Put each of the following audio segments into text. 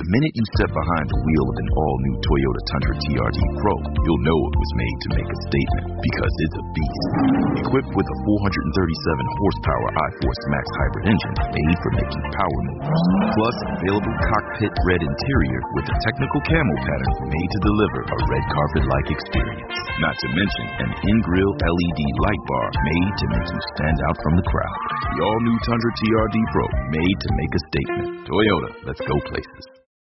The minute you step behind the wheel of an all-new Toyota Tundra TRD Pro, you'll know it was made to make a statement, because it's a beast. Equipped with a 437-horsepower iForce Max hybrid engine made for making power moves. Plus, available cockpit red interior with a technical camo pattern made to deliver a red carpet-like experience. Not to mention an in-grill LED light bar made to make you stand out from the crowd. The all-new Tundra TRD Pro, made to make a statement. Toyota, let's go places.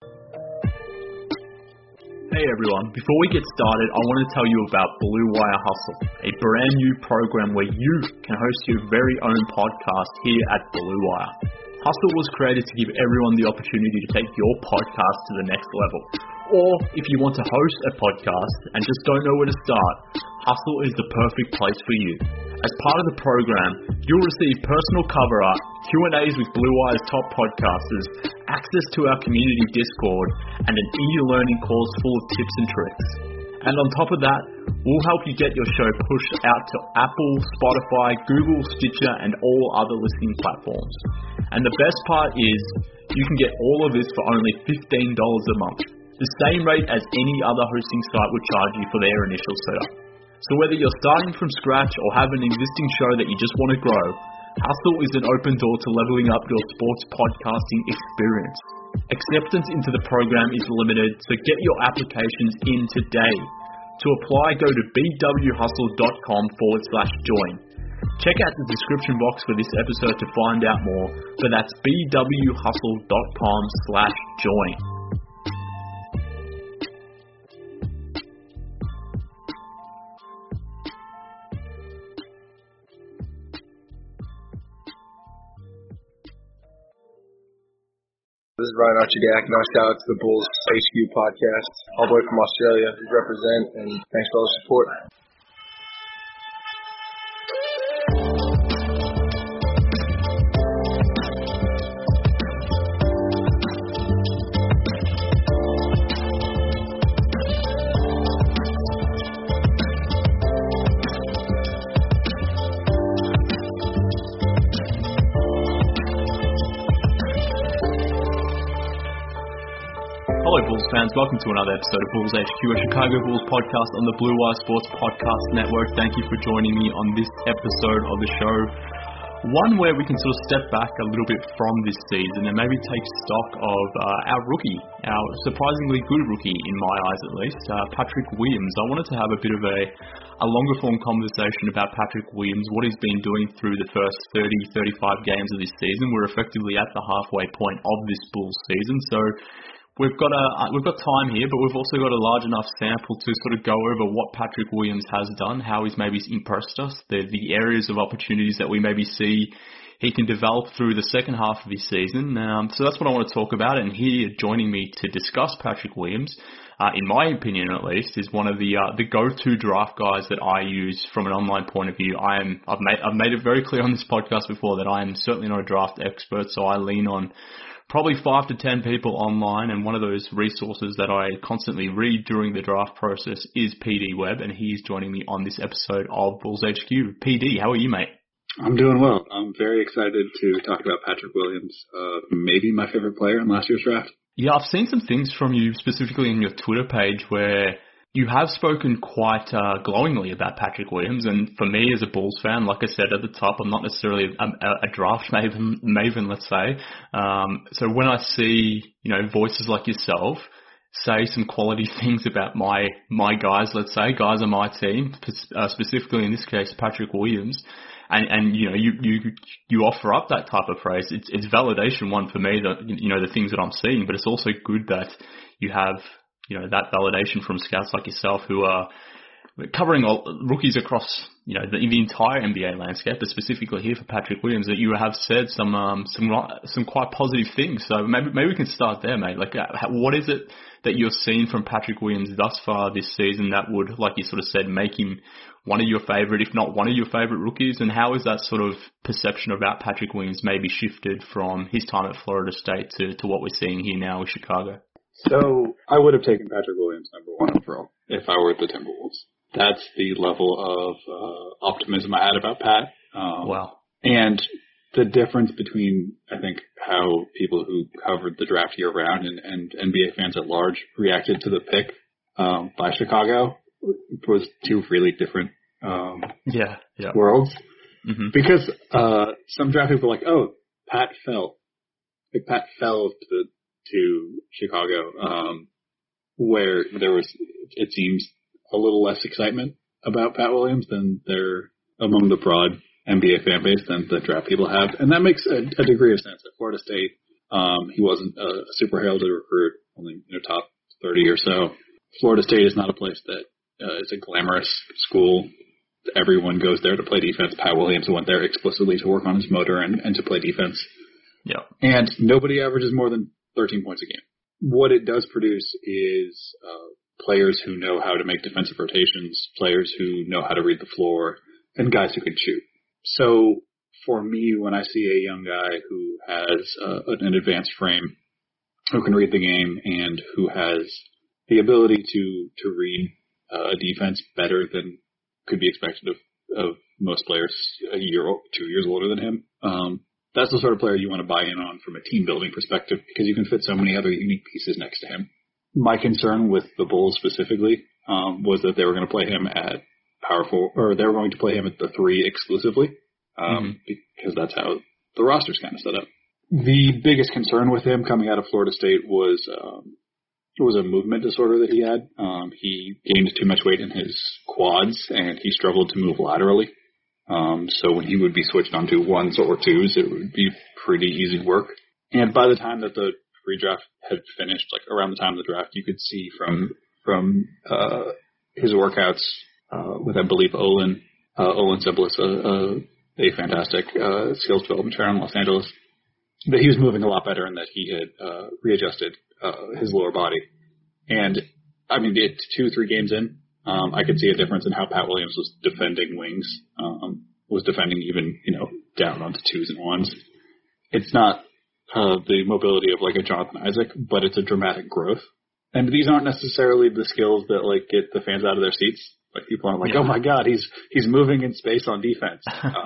Hey everyone, before we get started, I want to tell you about Blue Wire Hustle, a brand new program where you can host your very own podcast here at Blue Wire. Hustle was created to give everyone the opportunity to take your podcast to the next level. Or if you want to host a podcast and just don't know where to start, Hustle is the perfect place for you. As part of the program, you'll receive personal cover art, Q&As with Blue Wire's top podcasters, access to our community Discord, and an e-learning course full of tips and tricks. And on top of that, we'll help you get your show pushed out to Apple, Spotify, Google, Stitcher, and all other listening platforms. And the best part is, you can get all of this for only $15 a month, the same rate as any other hosting site would charge you for their initial setup. So whether you're starting from scratch or have an existing show that you just want to grow, Hustle is an open door to leveling up your sports podcasting experience. Acceptance into the program is limited, so get your applications in today. To apply, go to bwhustle.com/join. Check out the description box for this episode to find out more, but that's bwhustle.com/join. This is Ryan Archidak, and shout out to the Bulls HQ podcast, all the way from Australia. We represent, and thanks for all the support. Hello Bulls fans, welcome to another episode of Bulls HQ, a Chicago Bulls podcast on the Blue Wire Sports Podcast Network. Thank you for joining me on this episode of the show. One where we can sort of step back a little bit from this season and maybe take stock of our rookie, our surprisingly good rookie in my eyes at least, Patrick Williams. I wanted to have a bit of a longer form conversation about Patrick Williams, what he's been doing through the first 30-35 games of this season. We're effectively at the halfway point of this Bulls season, so we've got time here, but we've also got a large enough sample to sort of go over what Patrick Williams has done, how he's maybe impressed us, the areas of opportunities that we maybe see he can develop through the second half of his season. So that's what I want to talk about. And here, joining me to discuss Patrick Williams, in my opinion at least, is one of the go-to draft guys that I use from an online point of view. I've made it very clear on this podcast before that I am certainly not a draft expert, so I lean on probably 5 to 10 people online, and one of those resources that I constantly read during the draft process is PD Webb, and he's joining me on this episode of Bulls HQ. PD, how are you, mate? I'm doing well. I'm very excited to talk about Patrick Williams, maybe my favorite player in last year's draft. Yeah, I've seen some things from you specifically in your Twitter page where you have spoken quite glowingly about Patrick Williams, and for me as a Bulls fan, like I said at the top, I'm not necessarily a draft maven, let's say. So when I see, voices like yourself say some quality things about my guys, let's say, guys on my team, specifically in this case Patrick Williams, and you offer up that type of praise, it's validation, one, for me, that the things that I'm seeing, but it's also good that you have that validation from scouts like yourself who are covering all rookies across, the entire NBA landscape, but specifically here for Patrick Williams, that you have said some quite positive things. So maybe we can start there, mate. Like, what is it that you're seeing from Patrick Williams thus far this season that would, like you sort of said, make him one of your favorite, if not one of your favorite rookies? And how is that sort of perception about Patrick Williams maybe shifted from his time at Florida State to what we're seeing here now with Chicago? So I would have taken Patrick Williams number 1 overall if I were the Timberwolves. That's the level of optimism I had about Pat. Wow. And the difference between, I think, how people who covered the draft year round and NBA fans at large reacted to the pick by Chicago was two really different worlds. Mm-hmm. Because some draft people were like, oh, Pat fell to Chicago, where there was, it seems, a little less excitement about Pat Williams than there among the broad NBA fan base than the draft people have. And that makes a degree of sense. At Florida State, he wasn't a super heralded recruit, only top 30 or so. Florida State is not a place that is a glamorous school. Everyone goes there to play defense. Pat Williams went there explicitly to work on his motor and to play defense. Yeah. And nobody averages more than 13 points a game. What it does produce is players who know how to make defensive rotations, players who know how to read the floor, and guys who can shoot. So for me, when I see a young guy who has an advanced frame, who can read the game, and who has the ability to read a defense better than could be expected of most players a year or 2 years older than him, that's the sort of player you want to buy in on from a team building perspective, because you can fit so many other unique pieces next to him. My concern with the Bulls specifically was that they were going to play him at powerful, or they were going to play him at the 3 exclusively, because that's how the roster's kind of set up. The biggest concern with him coming out of Florida State was a movement disorder that he had. He gained too much weight in his quads, and he struggled to move laterally. So when he would be switched onto 1s or 2s, it would be pretty easy work. And by the time that the pre-draft had finished, like around the time of the draft, you could see from his workouts with, I believe, Olin Sibilis, a fantastic skills development trainer in Los Angeles, that he was moving a lot better and that he had readjusted his lower body. And, I mean, 2-3 games in, I could see a difference in how Pat Williams was defending wings, was defending even, down onto 2s and 1s. It's not the mobility of like a Jonathan Isaac, but it's a dramatic growth. And these aren't necessarily the skills that like get the fans out of their seats. Like people aren't like, oh my God, he's moving in space on defense.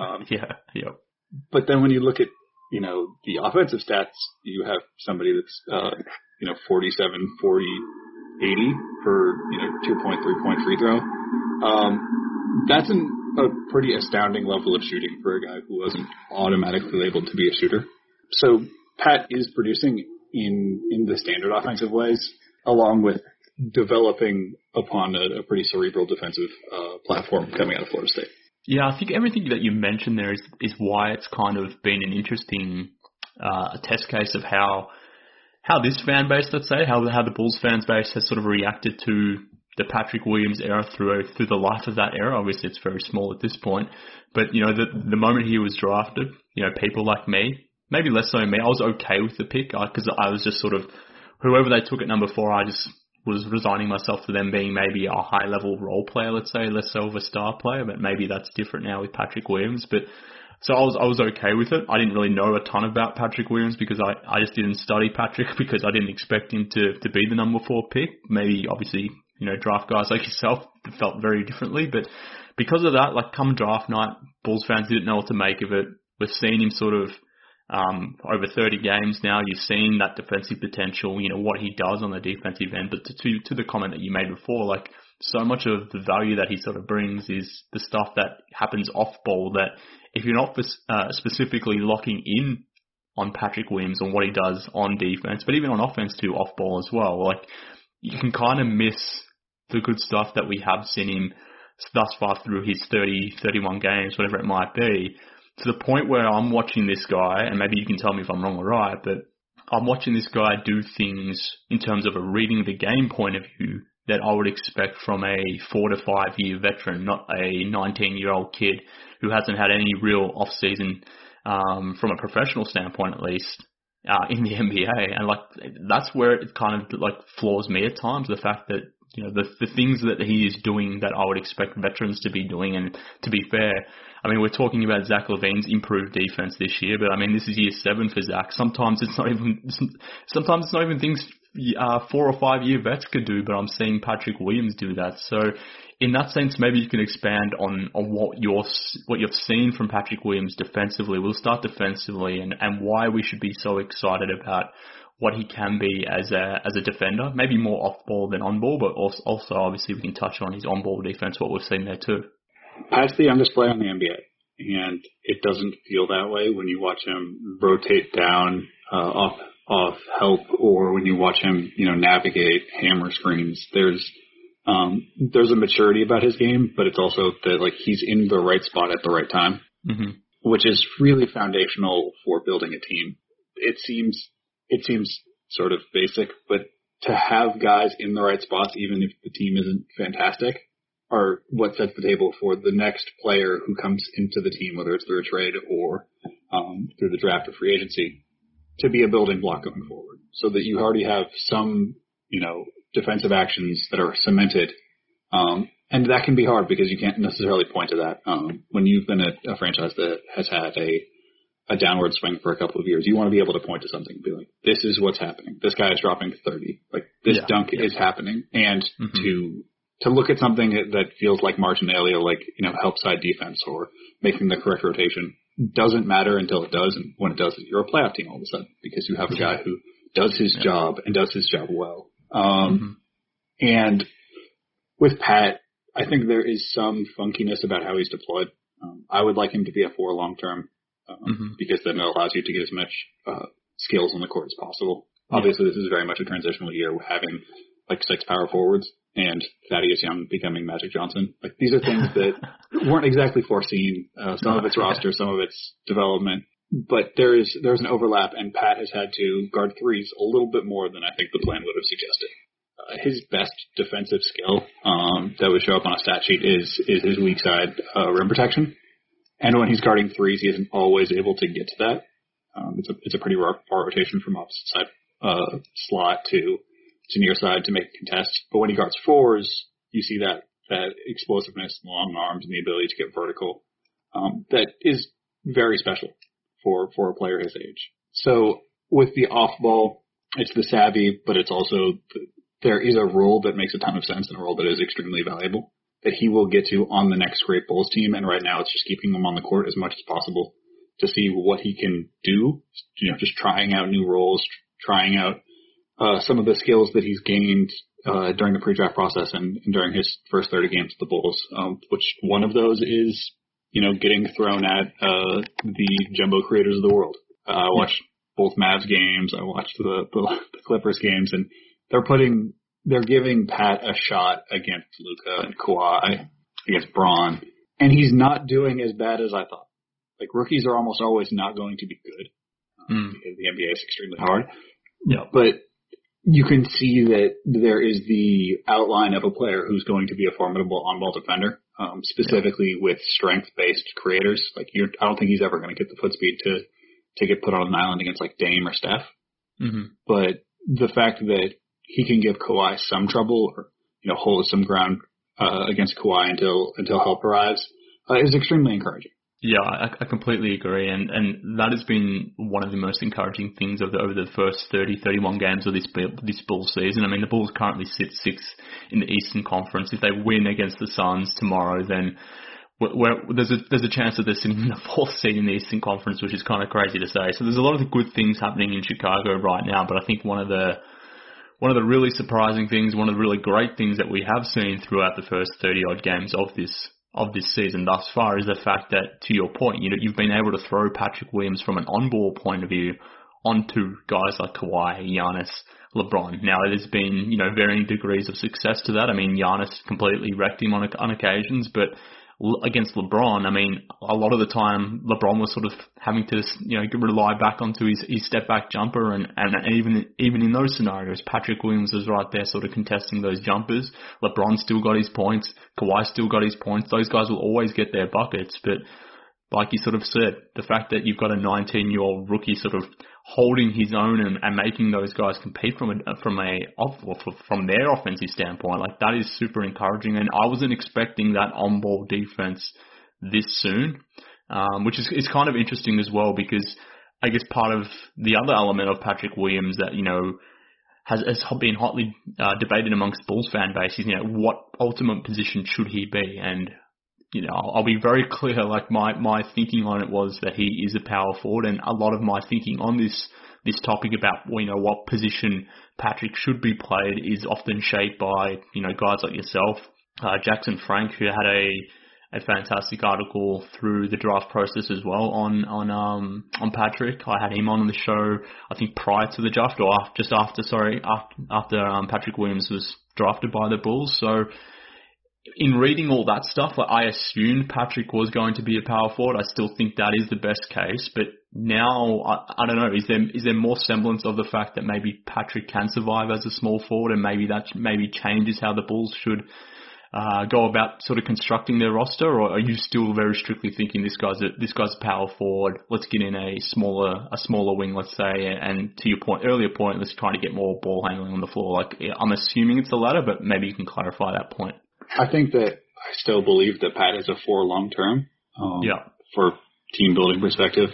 But then when you look at, the offensive stats, you have somebody that's, 47, 40, 80 for, 2-point, 3-point free throw. That's a pretty astounding level of shooting for a guy who wasn't automatically labeled to be a shooter. So Pat is producing in the standard offensive ways, along with developing upon a pretty cerebral defensive platform coming out of Florida State. Yeah, I think everything that you mentioned there is why it's kind of been an interesting test case of how this fan base, let's say, how the Bulls fans base has sort of reacted to the Patrick Williams era through the life of that era. Obviously, it's very small at this point, but the moment he was drafted, people like me, maybe less so me, I was okay with the pick because I was just sort of whoever they took at number 4, I just was resigning myself to them being maybe a high-level role player, let's say, less so of a star player, but maybe that's different now with Patrick Williams. But so I was okay with it. I didn't really know a ton about Patrick Williams because I just didn't study Patrick because I didn't expect him to be the number 4 pick. Maybe, obviously, draft guys like yourself felt very differently. But because of that, like come draft night, Bulls fans didn't know what to make of it. We've seen him sort of over 30 games now. You've seen that defensive potential, what he does on the defensive end. But to the comment that you made before, like so much of the value that he sort of brings is the stuff that happens off ball that if you're not specifically locking in on Patrick Williams and what he does on defense, but even on offense too, off ball as well, like you can kind of miss the good stuff that we have seen him thus far through his 30, 31 games, whatever it might be, to the point where I'm watching this guy, and maybe you can tell me if I'm wrong or right, but I'm watching this guy do things in terms of a reading the game point of view that I would expect from a 4 to 5 year veteran, not a 19-year-old kid who hasn't had any real off-season, from a professional standpoint at least, in the NBA. And like, that's where it kind of like floors me at times, the fact that, the things that he is doing that I would expect veterans to be doing. And to be fair, I mean, we're talking about Zach LaVine's improved defense this year, but I mean, this is year 7 for Zach. Sometimes it's not even things 4 or 5 year vets could do, but I'm seeing Patrick Williams do that. So in that sense, maybe you can expand on what you've seen from Patrick Williams defensively. We'll start defensively and why we should be so excited about what he can be as a defender, maybe more off ball than on ball, but also obviously we can touch on his on ball defense, what we've seen there too. Pat's the youngest player in the NBA, and it doesn't feel that way when you watch him rotate down off help, or when you watch him, navigate hammer screens. There's a maturity about his game, but it's also that like he's in the right spot at the right time, which is really foundational for building a team. It seems sort of basic, but to have guys in the right spots, even if the team isn't fantastic, are what sets the table for the next player who comes into the team, whether it's through a trade or through the draft or free agency, to be a building block going forward, so that you already have some, defensive actions that are cemented. And that can be hard because you can't necessarily point to that. When you've been a franchise that has had a downward swing for a couple of years, you want to be able to point to something and be like, this is what's happening. This guy is dropping 30. Like, this dunk is happening. And to look at something that feels like marginalia, like, help side defense or making the correct rotation, doesn't matter until it does. And when it does, you're a playoff team all of a sudden because you have a guy who does his job and does his job well. And with Pat, I think there is some funkiness about how he's deployed. I would like him to be a 4 long-term because then it allows you to get as much skills on the court as possible. Obviously, this is very much a transitional year, having like 6 power forwards and Thaddeus Young becoming Magic Johnson. Like, these are things that weren't exactly foreseen. Some of it's roster, some of it's development. But there's an overlap, and Pat has had to guard threes a little bit more than I think the plan would have suggested. His best defensive skill that would show up on a stat sheet is his weak side rim protection. And when he's guarding threes, he isn't always able to get to that. It's a pretty rough rotation from opposite side slot to near side to make a contest. But when he guards fours, you see that explosiveness, long arms, and the ability to get vertical that is very special for a player his age. So with the off ball, it's the savvy, but it's also there is a role that makes a ton of sense and a role that is extremely valuable that he will get to on the next great Bulls team. And right now it's just keeping him on the court as much as possible to see what he can do, just trying out new roles, trying out some of the skills that he's gained during the pre-draft process and during his first 30 games with the Bulls, which one of those is, getting thrown at the jumbo creators of the world. I watched both Mavs games. I watched the Clippers games, and they're giving Pat a shot against Luka and Kawhi, against Braun, and he's not doing as bad as I thought. Like, rookies are almost always not going to be good because the NBA is extremely hard. Yeah, but you can see that there is the outline of a player who's going to be a formidable on-ball defender, specifically with strength-based creators. Like, I don't think he's ever going to get the foot speed to get put on an island against like Dame or Steph. But the fact that he can give Kawhi some trouble or hold some ground against Kawhi until help arrives is extremely encouraging. Yeah, I completely agree, and that has been one of the most encouraging things over the first 30-31 games of this Bulls season. I mean, the Bulls currently sit 6th in the Eastern Conference. If they win against the Suns tomorrow, then there's a chance that they're sitting in the 4th seed in the Eastern Conference, which is kind of crazy to say. So there's a lot of the good things happening in Chicago right now, but I think one of the really surprising things, one of the really great things that we have seen throughout the first 30-odd games of this season thus far is the fact that, to your point, you've been able to throw Patrick Williams from an on-ball point of view onto guys like Kawhi, Giannis, LeBron. Now, there's been, varying degrees of success to that. I mean, Giannis completely wrecked him on occasions, but against LeBron, I mean, a lot of the time LeBron was sort of having to, rely back onto his step back jumper, and even in those scenarios, Patrick Williams was right there sort of contesting those jumpers. LeBron still got his points, Kawhi still got his points. Those guys will always get their buckets, but like you sort of said, the fact that you've got a 19-year-old rookie sort of holding his own and making those guys compete from their offensive standpoint, like, that is super encouraging. And I wasn't expecting that on-ball defense this soon, which is kind of interesting as well, because I guess part of the other element of Patrick Williams that, has been hotly debated amongst Bulls fan bases. What ultimate position should he be? And I'll be very clear. Like my thinking on it was that he is a power forward, and a lot of my thinking on this topic about what position Patrick should be played is often shaped by guys like yourself, Jackson Frank, who had a fantastic article through the draft process as well on Patrick. I had him on the show, I think prior to the draft, or after Patrick Williams was drafted by the Bulls. So in reading all that stuff, I assumed Patrick was going to be a power forward. I still think that is the best case, but now I don't know. Is there more semblance of the fact that maybe Patrick can survive as a small forward, and maybe that changes how the Bulls should go about sort of constructing their roster, or are you still very strictly thinking this guy's a power forward? Let's get in a smaller wing, let's say, and to your earlier point, let's try to get more ball handling on the floor. I'm assuming it's the latter, but maybe you can clarify that point. I think that I still believe that Pat is a 4 long term. For team building perspective.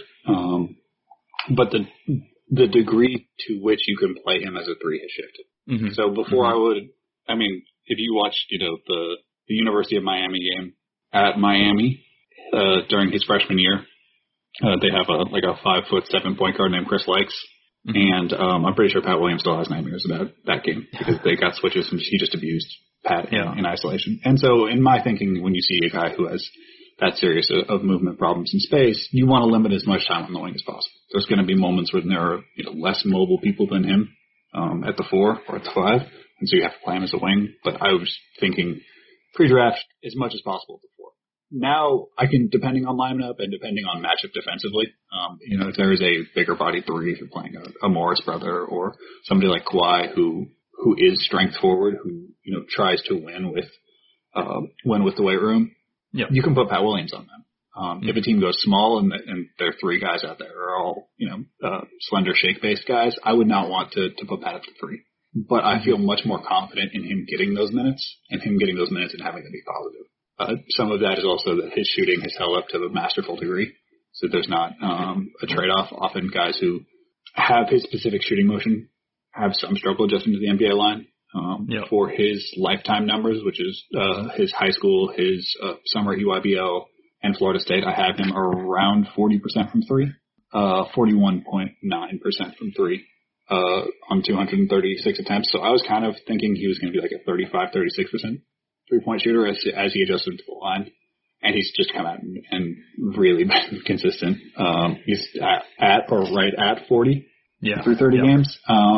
But the degree to which you can play him as a 3 has shifted. Mm-hmm. So before if you watched, the University of Miami game at Miami, during his freshman year, they have a 5'7" point guard named Chris Likes. Mm-hmm. And, I'm pretty sure Pat Williams still has nightmares about that game because they got switches and he just abused Pat in isolation. And so in my thinking, when you see a guy who has that serious of movement problems in space, you want to limit as much time on the wing as possible. There's going to be moments when there are less mobile people than him at the 4 or at the 5, and so you have to play him as a wing. But I was thinking pre-draft as much as possible at the 4. Now I can, depending on lineup and depending on matchup defensively, if there is a bigger body 3, if you're playing a Morris brother or somebody like Kawhi who is strength forward, who tries to win with the weight room. Yep. You can put Pat Williams on them. If a team goes small and there are 3 guys out there who are all, slender shake-based guys, I would not want to put Pat up to 3. But I feel much more confident in him getting those minutes and having them be positive. Some of that is also that his shooting has held up to a masterful degree, so there's not a trade-off. Often guys who have his specific shooting motion have some struggle adjusting to the NBA line. For his lifetime numbers, which is his high school, his summer EYBL, and Florida State, I have him around 40% from 3, 41.9% from 3 on 236 attempts. So I was kind of thinking he was going to be like a 35-36% three-point shooter as he adjusted to the line. And he's just come out and really been consistent. He's at or right at 40 through 30 games.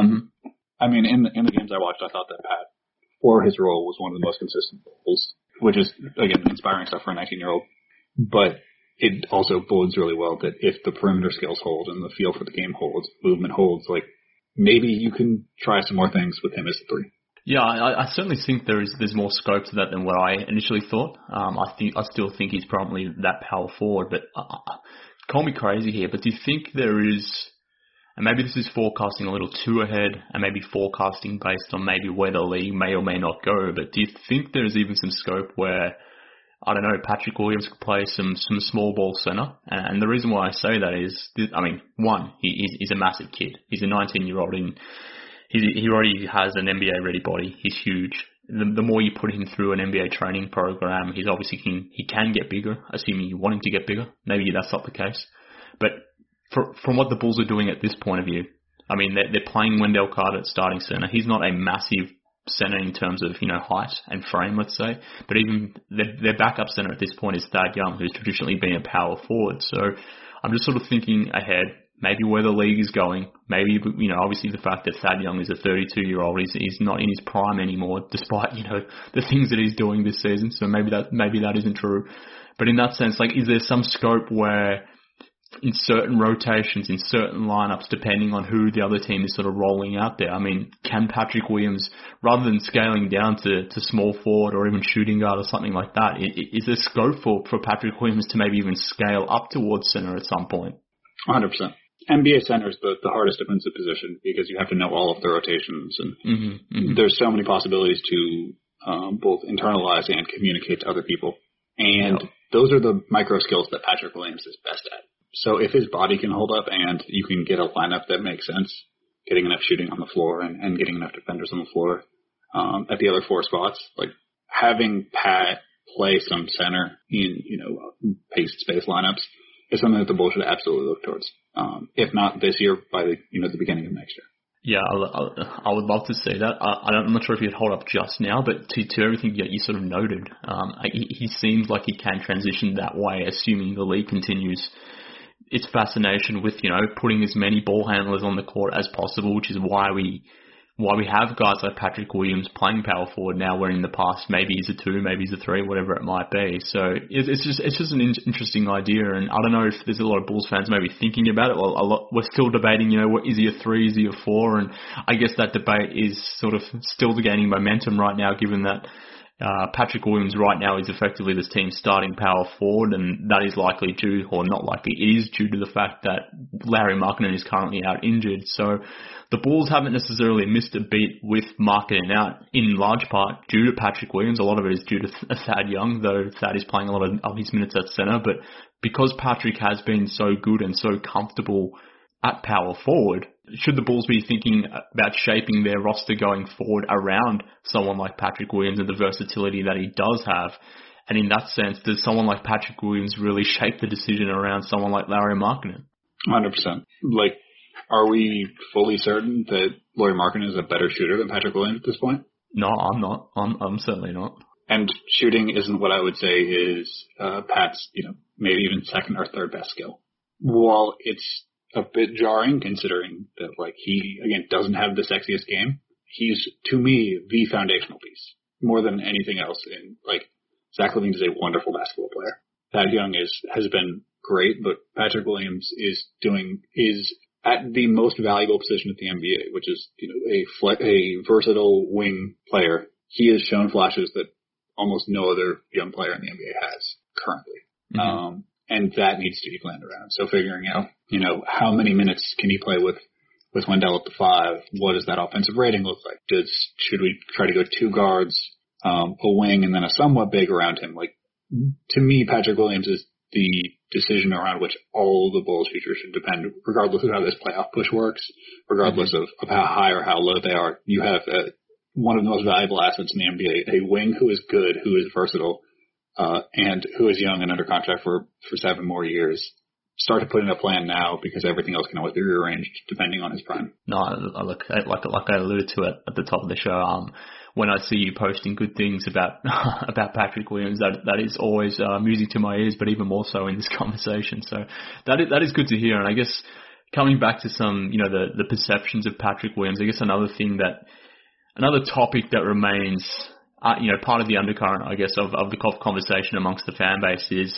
I mean, in the games I watched, I thought that Pat, for his role, was one of the most consistent roles, which is, again, inspiring stuff for a 19-year-old. But it also bodes really well that if the perimeter skills hold and the feel for the game holds, movement holds, maybe you can try some more things with him as a 3. Yeah, I certainly think there's more scope to that than what I initially thought. I still think he's probably that power forward, but call me crazy here, but do you think there is, and maybe this is forecasting a little too ahead, and maybe forecasting based on maybe where the league may or may not go, but do you think there's even some scope where, I don't know, Patrick Williams could play some small ball center? And the reason why I say that is, one, he's a massive kid. He's a 19-year-old, and he already has an NBA-ready body. He's huge. The more you put him through an NBA training program, he's obviously he can get bigger, assuming you want him to get bigger. Maybe that's not the case. But from what the Bulls are doing at this point of view, they're playing Wendell Carter at starting center. He's not a massive center in terms of, height and frame, let's say. But even their backup center at this point is Thad Young, who's traditionally been a power forward. So I'm just sort of thinking ahead, maybe where the league is going. Maybe, obviously the fact that Thad Young is a 32-year-old, he's not in his prime anymore, despite, the things that he's doing this season. So maybe that isn't true. But in that sense, is there some scope where in certain rotations, in certain lineups, depending on who the other team is sort of rolling out there, can Patrick Williams, rather than scaling down to small forward or even shooting guard or something like that, is there scope for Patrick Williams to maybe even scale up towards center at some point? 100%. NBA center is the hardest defensive position because you have to know all of the rotations, and there's so many possibilities to both internalize and communicate to other people. And those are the micro skills that Patrick Williams is best at. So if his body can hold up and you can get a lineup that makes sense, getting enough shooting on the floor and getting enough defenders on the floor at the other 4 spots. Like having Pat play some center in, pace space lineups is something that the Bulls should absolutely look towards. If not this year, by the beginning of next year. Yeah, I would love to see that. I'm not sure if he'd hold up just now, but to everything that you sort of noted, he seems like he can transition that way, assuming the league continues its fascination with, putting as many ball handlers on the court as possible, which is why we have guys like Patrick Williams playing power forward now, where in the past maybe he's a 2, maybe he's a 3, whatever it might be. So it's just an interesting idea, and I don't know if there's a lot of Bulls fans maybe thinking about it. Well, we're still debating, what is he a 3, is he a 4, and I guess that debate is sort of still gaining momentum right now, given that Patrick Williams right now is effectively this team's starting power forward, and that is likely due, or not likely, it is due to the fact that Lauri Markkanen is currently out injured. So the Bulls haven't necessarily missed a beat with Markkanen out, in large part due to Patrick Williams. A lot of it is due to Thad Young, though Thad is playing a lot of his minutes at center. But because Patrick has been so good and so comfortable at power forward, should the Bulls be thinking about shaping their roster going forward around someone like Patrick Williams and the versatility that he does have? And in that sense, does someone like Patrick Williams really shape the decision around someone like Lauri Markkanen? 100%. Are we fully certain that Lauri Markkanen is a better shooter than Patrick Williams at this point? No, I'm not. I'm certainly not. And shooting isn't what I would say is Pat's, maybe even second or third best skill. While it's a bit jarring considering that, he, again, doesn't have the sexiest game, he's, to me, the foundational piece. More than anything else. Zach LaVine is a wonderful basketball player. Thad Young has been great, but Patrick Williams is at the most valuable position at the NBA, which is, a versatile wing player. He has shown flashes that almost no other young player in the NBA has currently. Mm-hmm. And that needs to be planned around. So figuring out, how many minutes can he play with Wendell at the 5? What does that offensive rating look like? Should we try to go 2 guards, a wing, and then a somewhat big around him? To me, Patrick Williams is the decision around which all the Bulls' future should depend, regardless of how this playoff push works, regardless of how high or how low they are. You have one of the most valuable assets in the NBA, a wing who is good, who is versatile, and who is young and under contract for 7 more years. Start to put in a plan now, because everything else can always be rearranged depending on his prime. No, look, like I alluded to it at the top of the show, when I see you posting good things about Patrick Williams, that is always music to my ears, but even more so in this conversation. So that is good to hear. And I guess coming back to some, the perceptions of Patrick Williams, I guess another topic that remains, part of the undercurrent, I guess, of the conversation amongst the fan base is,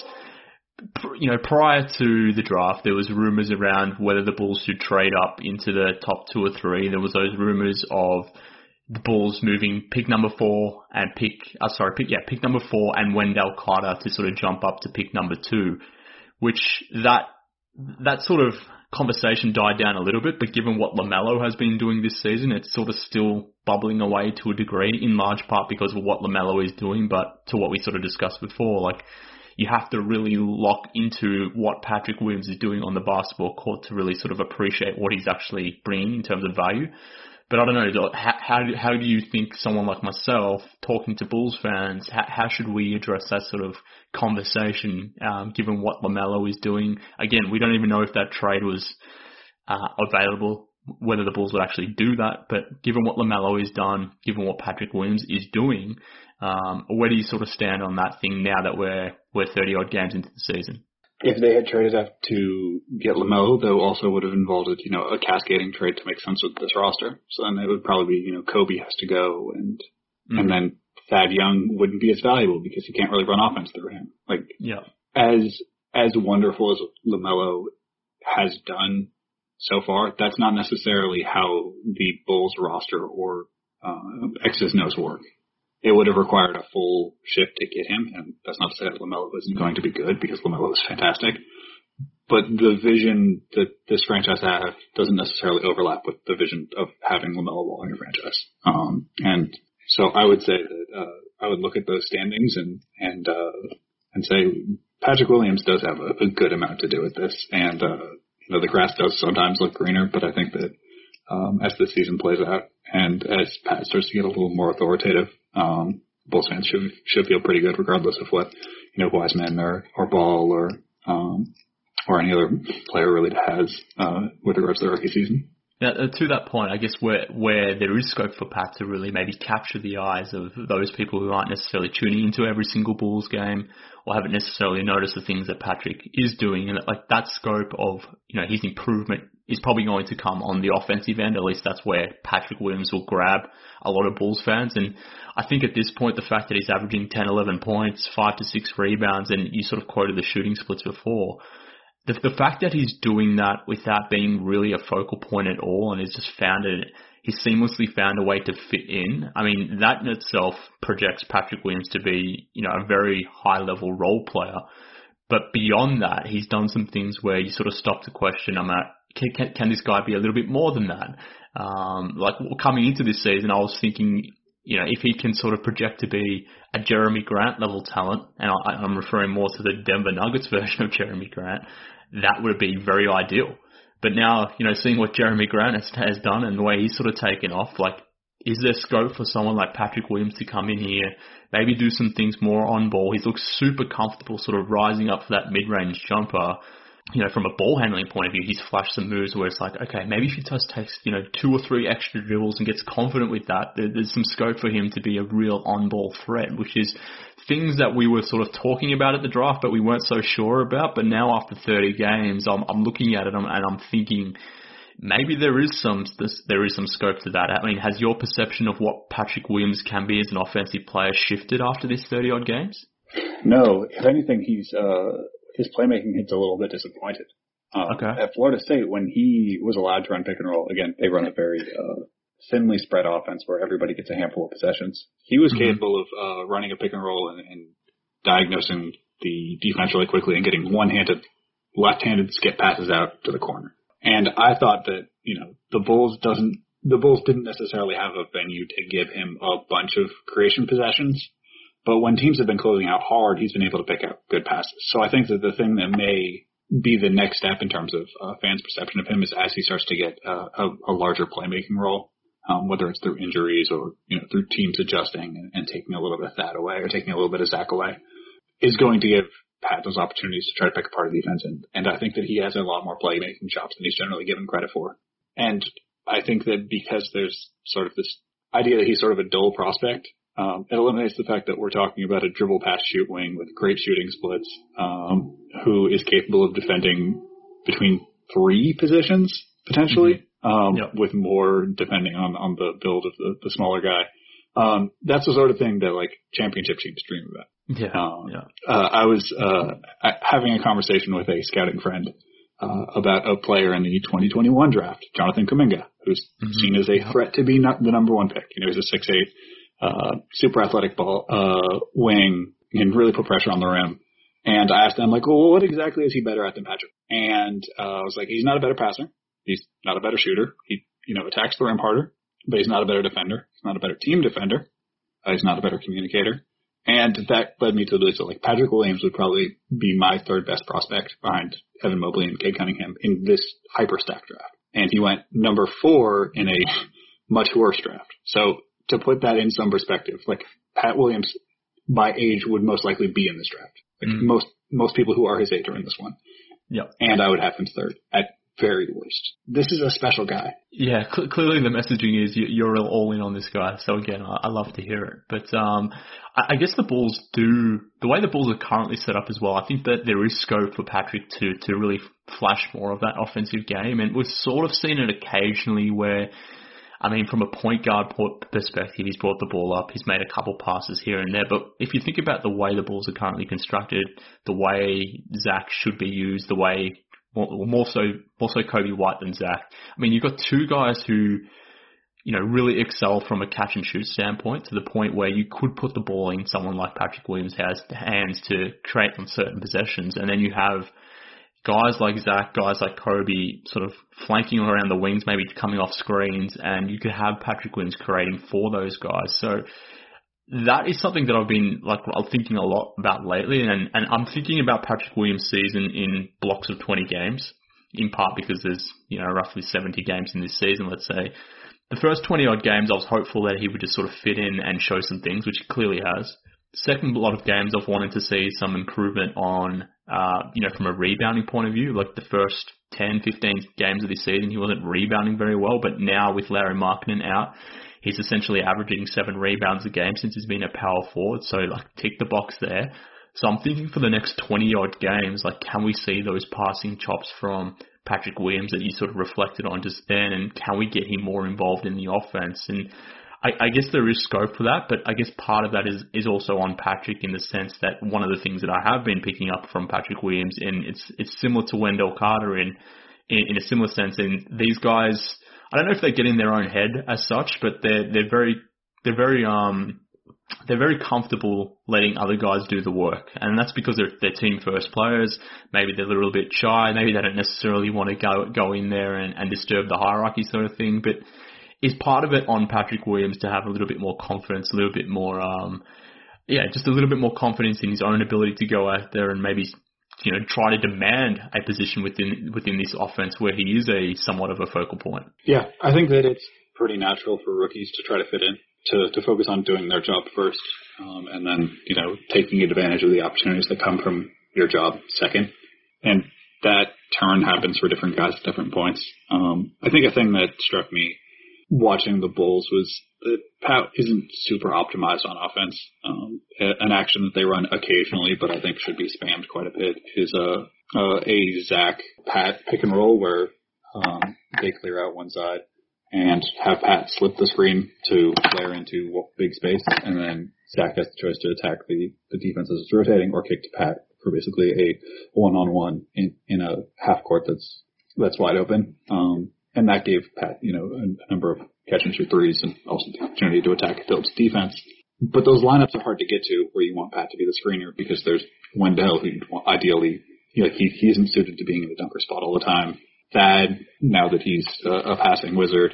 prior to the draft, there was rumors around whether the Bulls should trade up into the top 2 or 3. There was those rumors of the Bulls moving pick number 4 and pick number 4 and Wendell Carter to sort of jump up to pick number 2, which that sort of conversation died down a little bit, but given what LaMelo has been doing this season, it's sort of still bubbling away to a degree, in large part because of what LaMelo is doing, but to what we sort of discussed before, you have to really lock into what Patrick Williams is doing on the basketball court to really sort of appreciate what he's actually bringing in terms of value. But I don't know, how do you think someone like myself, talking to Bulls fans, how should we address that sort of conversation, given what LaMelo is doing? Again, we don't even know if that trade was available, whether the Bulls would actually do that, but given what LaMelo has done, given what Patrick Williams is doing, where do you sort of stand on that thing now that we're 30-odd games into the season? If they had traded up to get LaMelo, though, also would have involved a cascading trade to make sense with this roster. So then it would probably be, Kobe has to go, and then Thad Young wouldn't be as valuable because he can't really run offense through him. As wonderful as LaMelo has done so far, that's not necessarily how the Bulls roster or X's and O's work. It would have required a full shift to get him, and that's not to say that LaMelo isn't going to be good, because LaMelo is fantastic. But the vision that this franchise has doesn't necessarily overlap with the vision of having LaMelo Ball in your franchise. And so I would say that I would look at those standings and say Patrick Williams does have a good amount to do with this, and the grass does sometimes look greener, but I think that as the season plays out and as Pat starts to get a little more authoritative. Bulls fans should feel pretty good regardless of what, Wiseman or Ball or any other player really has with regards to the rookie season. Now, to that point, I guess where there is scope for Pat to really maybe capture the eyes of those people who aren't necessarily tuning into every single Bulls game or haven't necessarily noticed the things that Patrick is doing, and like that scope of his improvement is probably going to come on the offensive end. At least that's where Patrick Williams will grab a lot of Bulls fans. And I think at this point, the fact that he's averaging 10, 11 points, 5 to 6 rebounds, and you sort of quoted the shooting splits before. The fact that he's doing that without being really a focal point at all and he's seamlessly found a way to fit in, I mean, that in itself projects Patrick Williams to be, a very high-level role player. But beyond that, he's done some things where you sort of stop to question, can this guy be a little bit more than that? Like coming into this season, I was thinking, if he can sort of project to be a Jeremy Grant level talent, and I'm referring more to the Denver Nuggets version of Jeremy Grant, that would be very ideal. But now, seeing what Jeremy Grant has done and the way he's sort of taken off, like, is there scope for someone like Patrick Williams to come in here, maybe do some things more on ball? He's looked super comfortable sort of rising up for that mid-range jumper. From a ball handling point of view, he's flashed some moves where it's like, okay, maybe if he just takes, 2 or 3 extra dribbles and gets confident with that, there's some scope for him to be a real on-ball threat, which is things that we were sort of talking about at the draft, but we weren't so sure about. But now after 30 games, I'm looking at it and I'm thinking maybe there is some scope to that. I mean, has your perception of what Patrick Williams can be as an offensive player shifted after this 30-odd games? No, if anything, his playmaking hits a little bit disappointed. Okay. At Florida State, when he was allowed to run pick and roll, again, they run a very thinly spread offense where everybody gets a handful of possessions. He was capable of running a pick and roll and diagnosing the defense really quickly and getting left-handed skip passes out to the corner. And I thought that, the Bulls didn't necessarily have a venue to give him a bunch of creation possessions. But when teams have been closing out hard, he's been able to pick out good passes. So I think that the thing that may be the next step in terms of fans' perception of him is as he starts to get a larger playmaking role, whether it's through injuries or through teams adjusting and taking a little bit of that away or taking a little bit of Zach away, is going to give Pat those opportunities to try to pick apart the defense. And I think that he has a lot more playmaking chops than he's generally given credit for. And I think that because there's sort of this idea that he's sort of a dull prospect, it eliminates the fact that we're talking about a dribble pass shoot wing with great shooting splits, who is capable of defending between 3 positions potentially, with more depending on the build of the smaller guy. That's the sort of thing that like championship teams dream about. I was having a conversation with a scouting friend about a player in the 2021 draft, Jonathan Kuminga, who's seen as a threat to be the number 1 pick. He's a 6'8". Super athletic wing and really put pressure on the rim. And I asked him, like, well, what exactly is he better at than Patrick? And I was like, he's not a better passer. He's not a better shooter. He, attacks the rim harder, but he's not a better defender. He's not a better team defender. He's not a better communicator. And that led me to the like Patrick Williams would probably be my 3rd best prospect behind Evan Mobley and Cade Cunningham in this hyper-stacked draft. And he went number 4 in a much worse draft. So to put that in some perspective, like Pat Williams by age would most likely be in this draft. Like most people who are his age are in this one. Yep. And I would have him 3rd at very worst. This is a special guy. Yeah, clearly the messaging is you're all in on this guy. So again, I love to hear it. But I guess the way the Bulls are currently set up as well, I think that there is scope for Patrick to really flash more of that offensive game. And we've sort of seen it occasionally where, I mean, from a point guard perspective, he's brought the ball up. He's made a couple passes here and there. But if you think about the way the Bulls are currently constructed, the way Zach should be used, the way more so Kobe White than Zach. I mean, you've got 2 guys who, really excel from a catch and shoot standpoint to the point where you could put the ball in someone like Patrick Williams' hands to create on certain possessions. And then you have guys like Zach, guys like Kobe sort of flanking around the wings, maybe coming off screens, and you could have Patrick Williams creating for those guys. So that is something that I've been thinking a lot about lately, and I'm thinking about Patrick Williams' season in blocks of 20 games. in part because there's, roughly 70 games in this season, let's say. The first 20-odd games, I was hopeful that he would just sort of fit in and show some things, which he clearly has. Second lot of games, I've wanted to see some improvement on, from a rebounding point of view. Like the first 10, 15 games of this season, he wasn't rebounding very well, but now with Lauri Markkanen out, he's essentially averaging 7 rebounds a game since he's been a power forward. So, tick the box there. So I'm thinking for the next 20-odd games, can we see those passing chops from Patrick Williams that you sort of reflected on just then, and can we get him more involved in the offense? And I guess there is scope for that, but I guess part of that is also on Patrick in the sense that one of the things that I have been picking up from Patrick Williams, and it's similar to Wendell Carter in a similar sense. And these guys, I don't know if they get in their own head as such, but they're very comfortable letting other guys do the work. And that's because they're team first players. Maybe they're a little bit shy. Maybe they don't necessarily want to go in there and disturb the hierarchy sort of thing. But is part of it on Patrick Williams to have a little bit more confidence, a little bit more, just a little bit more confidence in his own ability to go out there and maybe, try to demand a position within this offense where he is somewhat of a focal point? Yeah, I think that it's pretty natural for rookies to try to fit in, to focus on doing their job first, and then, taking advantage of the opportunities that come from your job second. And that turn happens for different guys at different points. I think a thing that struck me watching the Bulls was that Pat isn't super optimized on offense. An action that they run occasionally, but I think should be spammed quite a bit, is a Zach Pat pick and roll where they clear out one side and have Pat slip the screen to flare into big space, and then Zach has the choice to attack the defense as it's rotating or kick to Pat for basically a one-on-one in a half court that's wide open. And that gave Pat, a number of catch and shoot threes and also the opportunity to attack Phillips' defense. But those lineups are hard to get to where you want Pat to be the screener, because there's Wendell, who ideally, he isn't suited to being in the dunker spot all the time. Thad, now that he's a passing wizard,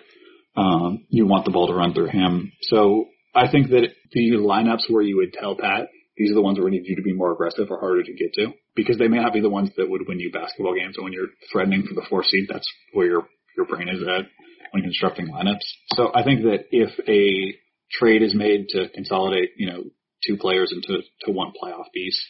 you want the ball to run through him. So I think that the lineups where you would tell Pat, these are the ones where we need you to be more aggressive, are harder to get to, because they may not be the ones that would win you basketball games. And when you're threatening for the 4th seed, that's where your brain is at when constructing lineups. So I think that if a trade is made to consolidate, 2 players into one playoff beast,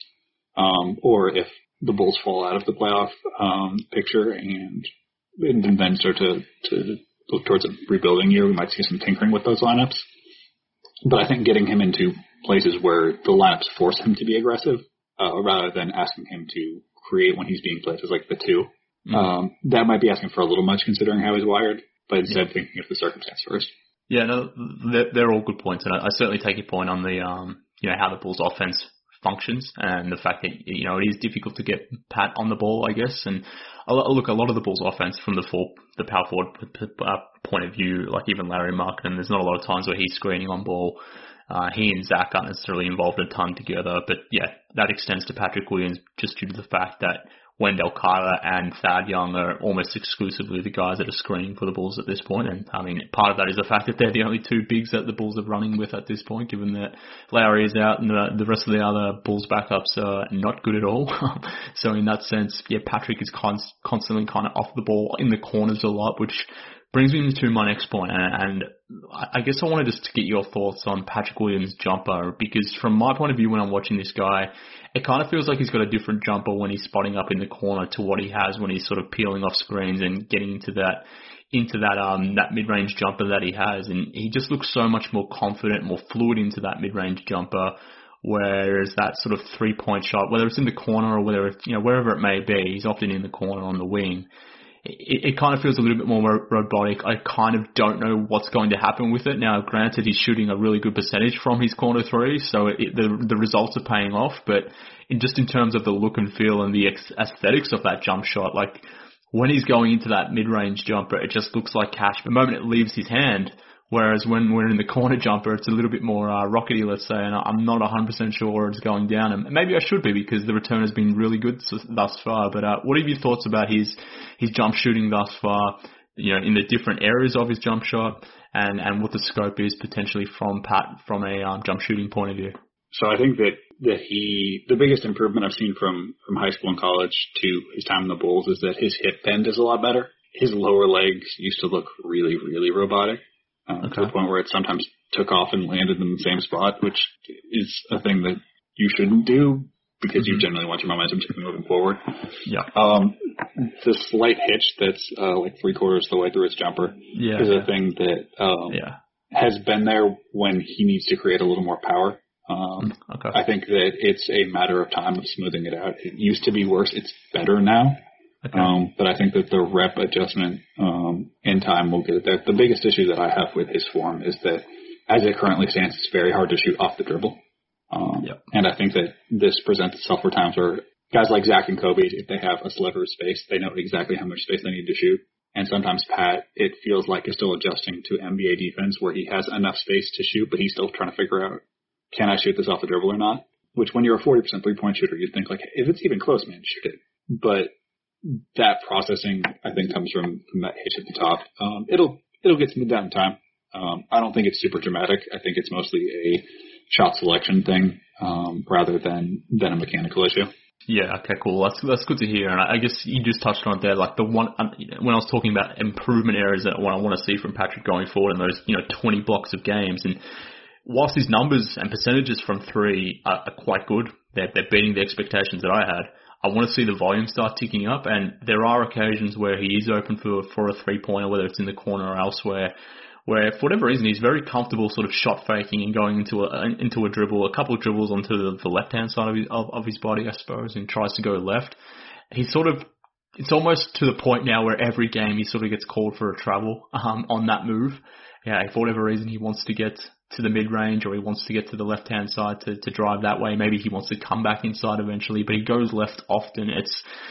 or if the Bulls fall out of the playoff picture and then start to look towards a rebuilding year, we might see some tinkering with those lineups. But I think getting him into places where the lineups force him to be aggressive, rather than asking him to create when he's being placed as the 2, that might be asking for a little much considering how he's wired, but instead thinking of the circumstance first. Yeah, no, they're all good points, and I certainly take your point on the, how the Bulls offense functions and the fact that, it is difficult to get Pat on the ball, I guess. And look, a lot of the Bulls offense from the power forward point of view, like even Lauri Markkanen, there's not a lot of times where he's screening on ball. He and Zach aren't necessarily involved a ton together, but yeah, that extends to Patrick Williams just due to the fact that Wendell Carter and Thad Young are almost exclusively the guys that are screening for the Bulls at this point. And I mean, part of that is the fact that they're the only 2 bigs that the Bulls are running with at this point, given that Lauri is out and the rest of the other Bulls backups are not good at all. So in that sense, yeah, Patrick is constantly kind of off the ball in the corners a lot, which brings me to my next point, and I guess I wanted just to get your thoughts on Patrick Williams' jumper, because from my point of view when I'm watching this guy, it kind of feels like he's got a different jumper when he's spotting up in the corner to what he has when he's sort of peeling off screens and getting into that mid-range jumper that he has, and he just looks so much more confident, more fluid into that mid-range jumper. Whereas that sort of 3-point shot, whether it's in the corner or whether it's, wherever it may be, he's often in the corner on the wing. It kind of feels a little bit more robotic. I kind of don't know what's going to happen with it. Now, granted, he's shooting a really good percentage from his corner 3, so the results are paying off. But in terms of the look and feel and the aesthetics of that jump shot, when he's going into that mid-range jumper, it just looks like cash. The moment it leaves his hand, whereas when we're in the corner jumper, it's a little bit more rockety, let's say, and I'm not 100% sure where it's going down. And maybe I should be, because the return has been really good thus far. But what are your thoughts about his jump shooting thus far, in the different areas of his jump shot, and what the scope is potentially from Pat from a jump shooting point of view? So I think that the biggest improvement I've seen from high school and college to his time in the Bulls is that his hip bend is a lot better. His lower legs used to look really, really robotic to the point where it sometimes took off and landed in the same spot, which is a thing that you shouldn't do because you generally want your momentum to be moving forward. Yeah. The slight hitch that's like 3/4 of the way through his jumper is a thing that has been there when he needs to create a little more power. I think that it's a matter of time of smoothing it out. It used to be worse. It's better now. But I think that the rep adjustment in time will get it there. The biggest issue that I have with his form is that as it currently stands, it's very hard to shoot off the dribble. And I think that this presents itself for times where guys like Zach and Kobe, if they have a sliver of space, they know exactly how much space they need to shoot. And sometimes Pat, it feels like, is still adjusting to NBA defense where he has enough space to shoot, but he's still trying to figure out, can I shoot this off the dribble or not? Which when you're a 40% three-point shooter, you'd think, like, if it's even close, man, shoot it. But that processing, I think, comes from that hitch at the top. It'll get smoothed out in time. I don't think it's super dramatic. I think it's mostly a shot selection thing rather than a mechanical issue. Yeah, okay, cool. That's good to hear. And I guess you just touched on it there, like the one, when I was talking about improvement areas that what I want to see from Patrick going forward in those, 20 blocks of games. And whilst his numbers and percentages from three are quite good, they're beating the expectations that I had, I want to see the volume start ticking up. And there are occasions where he is open for a three-pointer, whether it's in the corner or elsewhere, where for whatever reason he's very comfortable sort of shot faking and going into a dribble, a couple of dribbles onto the left-hand side of his body, I suppose, and tries to go left. It's almost to the point now where every game he sort of gets called for a travel on that move. Yeah, for whatever reason he wants to get to the mid-range or he wants to get to the left-hand side to drive that way. Maybe he wants to come back inside eventually, but he goes left often. It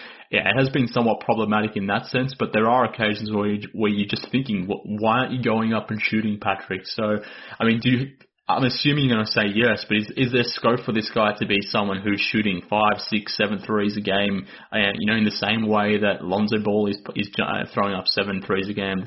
has been somewhat problematic in that sense, but there are occasions where you're just thinking, why aren't you going up and shooting, Patrick? So, I mean, I'm assuming you're going to say yes, but is there scope for this guy to be someone who's shooting 5, 6, 7 threes a game, in the same way that Lonzo Ball is throwing up 7 threes a game,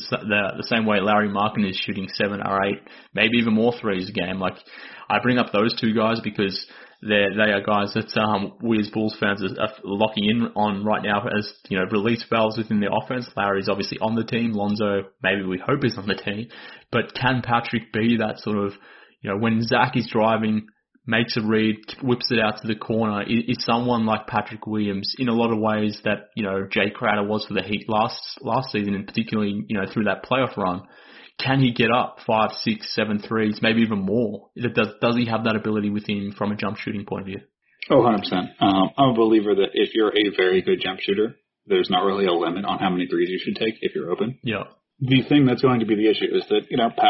the same way Larry Markin is shooting 7 or 8, maybe even more threes a game? Like, I bring up those two guys because they are guys that we as Bulls fans are locking in on right now as, release valves within the offense. Larry's obviously on the team. Lonzo, maybe we hope, is on the team. But can Patrick be that sort of, when Zach is driving, makes a read, whips it out to the corner, is someone like Patrick Williams in a lot of ways that, Jay Crowder was for the Heat last season, and particularly, through that playoff run. Can he get up 5, 6, 7 threes, maybe even more? Does he have that ability within from a jump shooting point of view? Oh, 100%. I'm a believer that if you're a very good jump shooter, there's not really a limit on how many threes you should take if you're open. Yeah. The thing that's going to be the issue is that,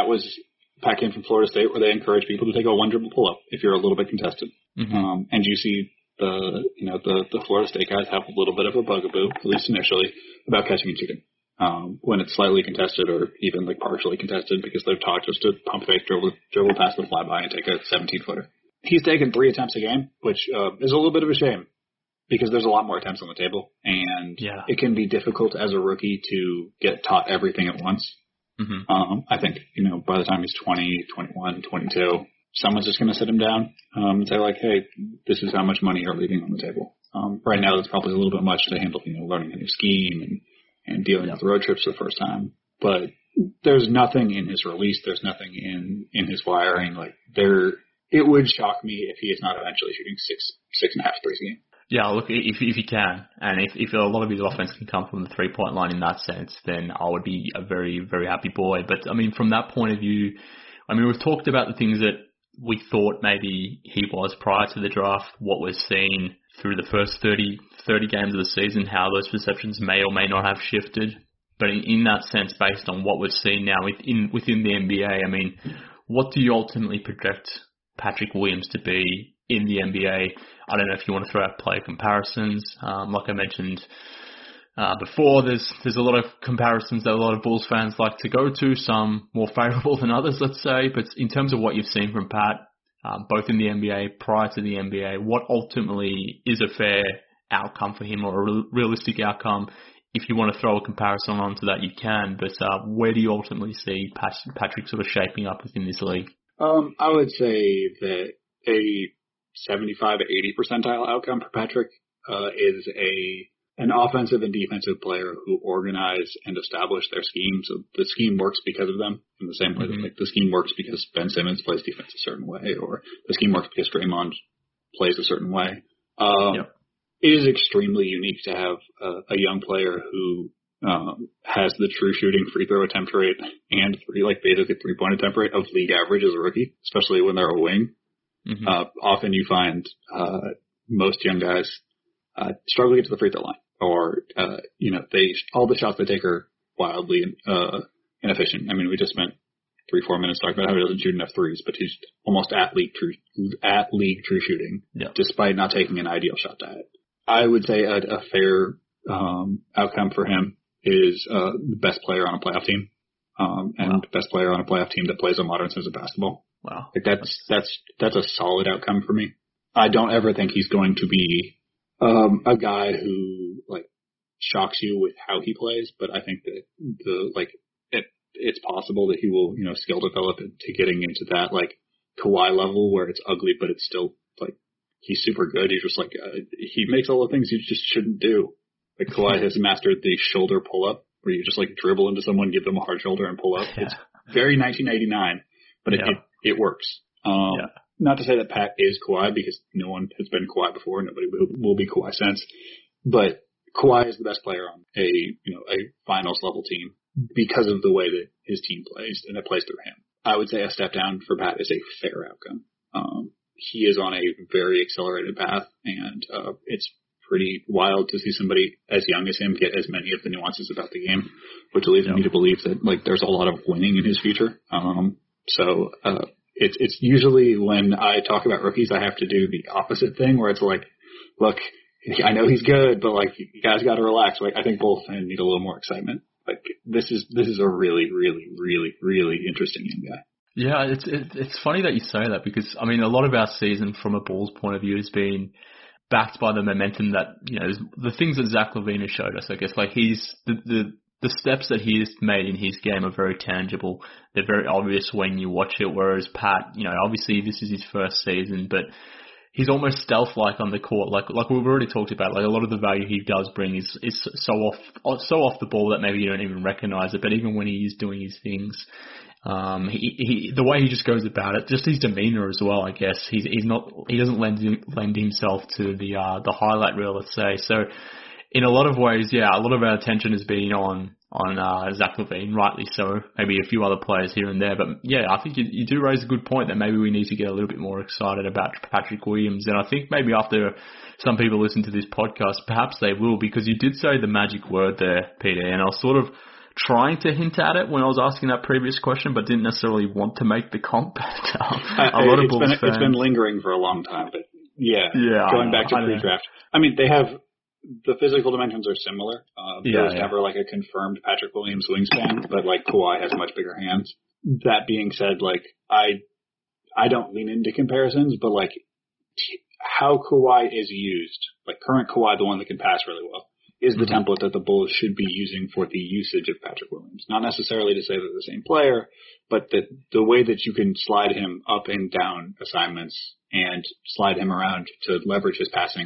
Pat came from Florida State where they encourage people to take a one dribble pull up if you're a little bit contested. Mm-hmm. And you see the Florida State guys have a little bit of a bugaboo, at least initially, about catching and shooting. When it's slightly contested or even like partially contested because they're taught just to pump fake, dribble past the flyby and take a 17-footer. He's taken 3 attempts a game, which is a little bit of a shame because there's a lot more attempts on the table. And it can be difficult as a rookie to get taught everything at once. Mm-hmm. I think, by the time he's 20, 21, 22, someone's just going to sit him down and say like, hey, this is how much money you're leaving on the table. Right now, that's probably a little bit much to handle, learning a new scheme and dealing with road trips for the first time. But there's nothing in his release. There's nothing in his wiring. It would shock me if he is not eventually shooting 6.5 threes a game. Yeah, look, if he can, and if a lot of his offense can come from the three-point line in that sense, then I would be a very, very happy boy. But, from that point of view, we've talked about the things that we thought maybe he was prior to the draft, what we're seeing through the first 30 games of the season, how those perceptions may or may not have shifted. But in that sense, based on what we've seen now within the NBA, what do you ultimately project Patrick Williams to be in the NBA? I don't know if you want to throw out player comparisons. Like I mentioned before, there's a lot of comparisons that a lot of Bulls fans like to go to, some more favorable than others, let's say. But in terms of what you've seen from Pat, both in the NBA, prior to the NBA, what ultimately is a fair outcome for him or a realistic outcome? If you want to throw a comparison onto that, you can. But where do you ultimately see Patrick sort of shaping up within this league? I would say that a 75 to 80 percentile outcome for Patrick is an offensive and defensive player who organize and establish their scheme. So the scheme works because of them, in the same way that like the scheme works because Ben Simmons plays defense a certain way, or the scheme works because Draymond plays a certain way. It is extremely unique to have a young player who has the true shooting free throw attempt rate and basically 3-point attempt rate of league average as a rookie, especially when they're a wing. Often you find most young guys struggle to get to the free throw line, or all the shots they take are wildly inefficient. I mean, we just spent 3-4 minutes talking about how he doesn't shoot enough threes, but he's almost at league true shooting, despite not taking an ideal shot to it. I would say a fair outcome for him is the best player on a playoff team, and best player on a playoff team that plays a modern sense of basketball. Wow, like that's a solid outcome for me. I don't ever think he's going to be a guy who like shocks you with how he plays, but I think that it's possible that he will, skill develop into getting into that like Kawhi level where it's ugly, but it's still like he's super good. He's just like he makes all the things you just shouldn't do. Like Kawhi has mastered the shoulder pull up, where you just like dribble into someone, give them a hard shoulder, and pull up. Yeah. It's very 1989, but it works. Not to say that Pat is Kawhi, because no one has been Kawhi before. Nobody will be Kawhi since. But Kawhi is the best player on a finals level team because of the way that his team plays and it plays through him. I would say a step down for Pat is a fair outcome. He is on a very accelerated path, and it's pretty wild to see somebody as young as him get as many of the nuances about the game, which leads me to believe that like there's a lot of winning in his future. It's usually when I talk about rookies, I have to do the opposite thing where it's like, look, I know he's good, but like you guys got to relax. Like I think both need a little more excitement. Like this is a really, really, really, really interesting young guy. Yeah, it's funny that you say that, because I mean a lot of our season from a Bulls point of view has been backed by the momentum that the things that Zach LaVine has showed us. I guess like he's the steps that he has made in his game are very tangible. They're very obvious when you watch it. Whereas Pat, obviously this is his first season, but he's almost stealth-like on the court. Like we've already talked about, like a lot of the value he does bring is so off the ball that maybe you don't even recognize it. But even when he is doing his things, the way he just goes about it, just his demeanor as well, I guess. He doesn't lend himself to the highlight reel, let's say. So in a lot of ways, a lot of our attention has been on Zach LaVine, rightly so. Maybe a few other players here and there, but I think you do raise a good point that maybe we need to get a little bit more excited about Patrick Williams. And I think maybe after some people listen to this podcast, perhaps they will, because you did say the magic word there, Peter, and I was sort of trying to hint at it when I was asking that previous question, but didn't necessarily want to make the comp. It's been lingering for a long time, but going back to pre-draft. I mean, they have the physical dimensions are similar. There's never like a confirmed Patrick Williams wingspan, but like Kawhi has much bigger hands. That being said, like I don't lean into comparisons, but like how Kawhi is used, like current Kawhi, the one that can pass really well, is the template that the Bulls should be using for the usage of Patrick Williams. Not necessarily to say they're the same player, but that the way that you can slide him up and down assignments and slide him around to leverage his passing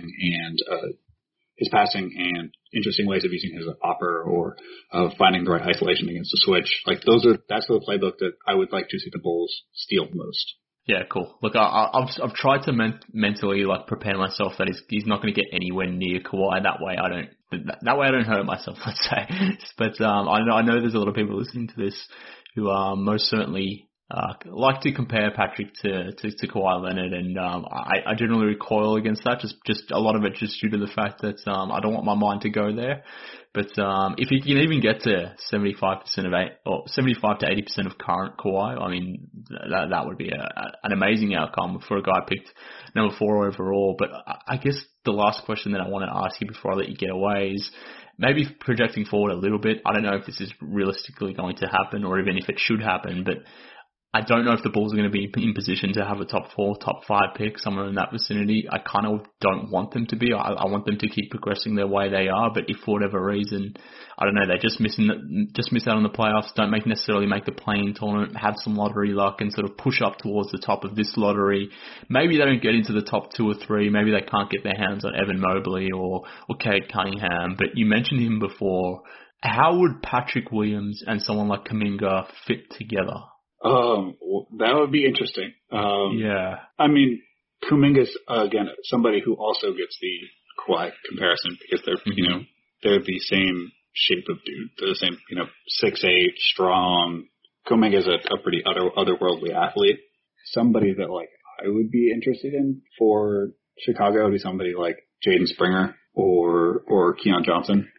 and interesting ways of using his upper or of finding the right isolation against the switch. Like that's the playbook that I would like to see the Bulls steal most. Yeah, cool. Look, I've tried to mentally like prepare myself that he's not going to get anywhere near Kawhi. That way I don't hurt myself, let's say. But I know there's a lot of people listening to this who most certainly like to compare Patrick to Kawhi Leonard, and I generally recoil against that. Just a lot of it just due to the fact that I don't want my mind to go there. But if he can even get to 75% or 75 to 80% of current Kawhi, I mean that would be an amazing outcome for a guy picked number 4 overall. But I guess the last question that I want to ask you before I let you get away is maybe projecting forward a little bit. I don't know if this is realistically going to happen or even if it should happen, but I don't know if the Bulls are going to be in position to have a top 4, top 5 pick, somewhere in that vicinity. I kind of don't want them to be. I want them to keep progressing their way they are, but if for whatever reason, I don't know, they just miss out on the playoffs, don't necessarily make the play-in tournament, have some lottery luck and sort of push up towards the top of this lottery. Maybe they don't get into the top 2 or 3. Maybe they can't get their hands on Evan Mobley or Cade Cunningham. But you mentioned him before. How would Patrick Williams and someone like Kuminga fit together? That would be interesting. Yeah. I mean, Kuminga's, again, somebody who also gets the Kawhi comparison because they're, they're the same shape of dude. They're the same, 6'8", strong. Kuminga's a pretty otherworldly athlete. Somebody that, I would be interested in for Chicago would be somebody like Jaden Springer or Keon Johnson.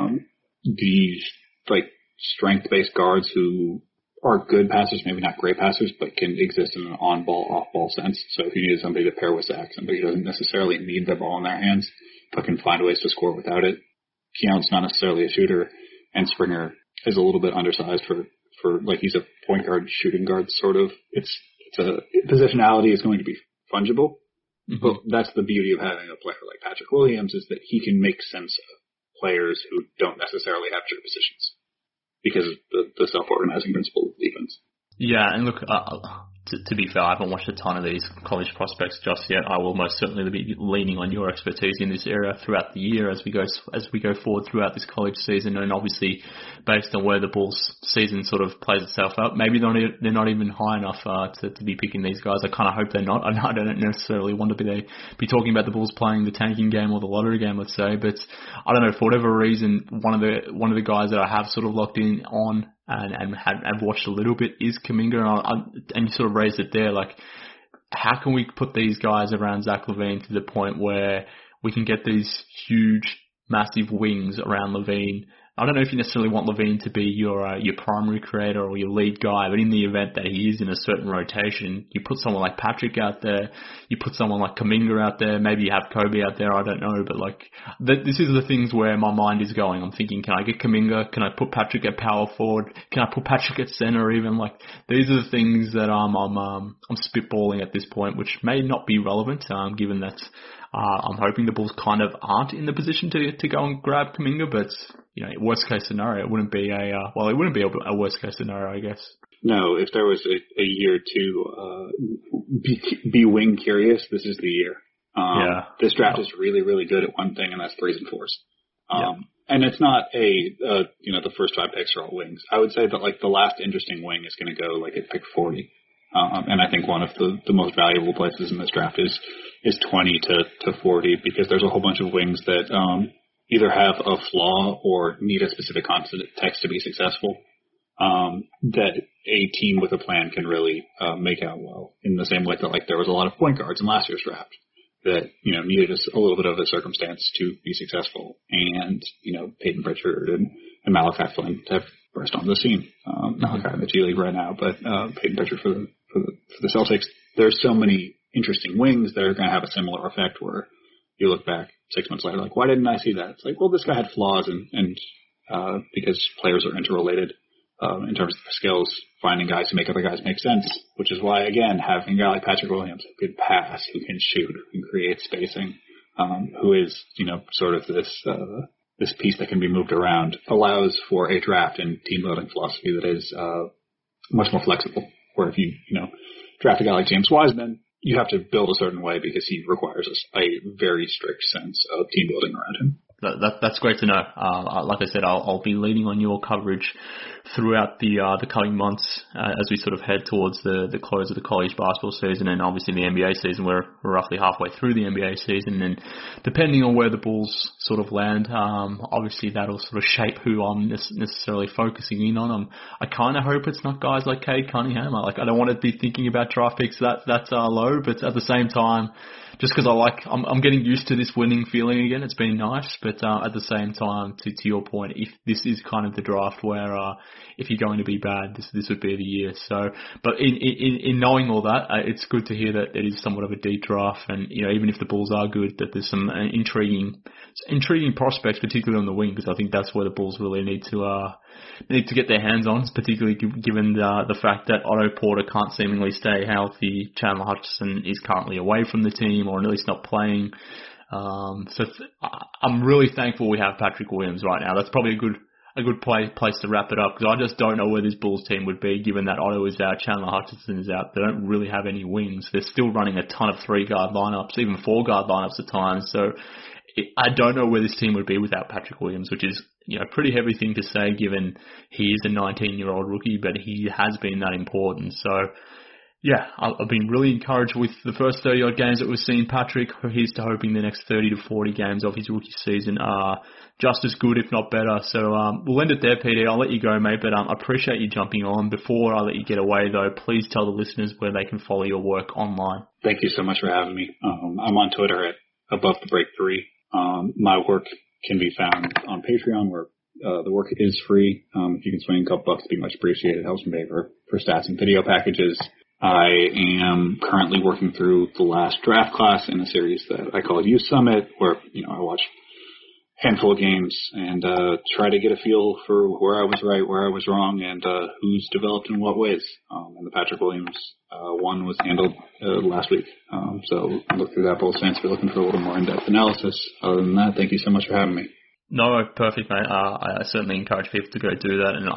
These, strength-based guards who are good passers, maybe not great passers, but can exist in an on-ball, off-ball sense. So if you need somebody to pair with Zach, somebody who doesn't necessarily need the ball in their hands, but can find ways to score without it. Keon's not necessarily a shooter, and Springer is a little bit undersized for he's a point guard, shooting guard, sort of. It's a positionality is going to be fungible, but that's the beauty of having a player like Patrick Williams is that he can make sense of players who don't necessarily have true positions, because of the self-organizing principle of defense. Yeah, and look, to be fair, I haven't watched a ton of these college prospects just yet. I will most certainly be leaning on your expertise in this area throughout the year as we go forward throughout this college season, and obviously based on where the Bulls season sort of plays itself out, maybe they're not even high enough to be picking these guys. I kind of hope they're not. I don't necessarily want to be talking about the Bulls playing the tanking game or the lottery game, let's say, but I don't know, for whatever reason, one of the guys that I have sort of locked in on and have watched a little bit is Kuminga, and you sort of raised it there, how can we put these guys around Zach LaVine to the point where we can get these huge, massive wings around LaVine? I don't know if you necessarily want LaVine to be your primary creator or your lead guy, but in the event that he is in a certain rotation, you put someone like Patrick out there, you put someone like Kuminga out there, maybe you have Kobe out there, I don't know, but this is the things where my mind is going. I'm thinking, can I get Kuminga? Can I put Patrick at power forward? Can I put Patrick at center even? These are the things that I'm spitballing at this point, which may not be relevant, given that I'm hoping the Bulls kind of aren't in the position to go and grab Kuminga, but worst case scenario, it wouldn't be a worst case scenario, I guess. No, if there was a year to be wing curious, this is the year. This draft is really, really good at one thing, and that's 3s and 4s. And it's not the first 5 picks are all wings. I would say that the last interesting wing is going to go at pick 40. And I think one of the most valuable places in this draft is 20 to 40, because there's a whole bunch of wings that either have a flaw or need a specific context to be successful, that a team with a plan can really make out well, in the same way that there was a lot of point guards in last year's draft that needed a little bit of a circumstance to be successful, and Peyton Pritchard and Malachi Flynn have burst onto the scene. Malachi in the G League right now, but Peyton Pritchard for the Celtics. There's so many interesting wings that are going to have a similar effect where you look back 6 months later, why didn't I see that? It's well, this guy had flaws, and because players are interrelated in terms of the skills, finding guys who make other guys make sense, which is why, again, having a guy like Patrick Williams who can pass, who can shoot, who can create spacing, who is, sort of this piece that can be moved around, allows for a draft and team building philosophy that is much more flexible. Where if you, draft a guy like James Wiseman, you have to build a certain way because he requires a very strict sense of team building around him. That's great to know. Like I said, I'll be leaning on your coverage throughout the coming months as we sort of head towards the close of the college basketball season, and obviously the NBA season. We're roughly halfway through the NBA season, and depending on where the Bulls sort of land, obviously that'll sort of shape who I'm necessarily focusing in on. I kind of hope it's not guys like Cade Cunningham. I don't want to be thinking about draft picks that's low, but at the same time, just because I'm getting used to this winning feeling again. It's been nice, but but at the same time, to your point, if this is kind of the draft where if you're going to be bad, this would be the year. So, but in knowing all that, it's good to hear that it is somewhat of a deep draft, and even if the Bulls are good, that there's some intriguing prospects, particularly on the wing, because I think that's where the Bulls really need to get their hands on, particularly given the fact that Otto Porter can't seemingly stay healthy. Chandler Hutchison is currently away from the team, or at least not playing. So I'm really thankful we have Patrick Williams right now. That's probably a good place to wrap it up, because I just don't know where this Bulls team would be given that Otto is out, Chandler Hutchison is out. They don't really have any wings. They're still running a ton of 3-guard lineups, even 4-guard lineups at times. So I don't know where this team would be without Patrick Williams, which is a pretty heavy thing to say given he is a 19-year-old rookie, but he has been that important. So, yeah, I've been really encouraged with the first 30-odd games that we've seen Patrick. Here's to hoping the next 30 to 40 games of his rookie season are just as good, if not better. So we'll end it there, PD. I'll let you go, mate, but I appreciate you jumping on. Before I let you get away, though, please tell the listeners where they can follow your work online. Thank you so much for having me. I'm on Twitter at AboveTheBreak3. My work can be found on Patreon, where the work is free. If you can swing a couple bucks, it'd be much appreciated. It helps me pay for stats and video packages. I am currently working through the last draft class in a series that I call Youth Summit, where I watch a handful of games and try to get a feel for where I was right, where I was wrong, and who's developed in what ways. And the Patrick Williams one was handled last week. So look through that, Bulls fans, if you're looking for a little more in-depth analysis. Other than that, thank you so much for having me. No, perfect, mate. I certainly encourage people to go do that, and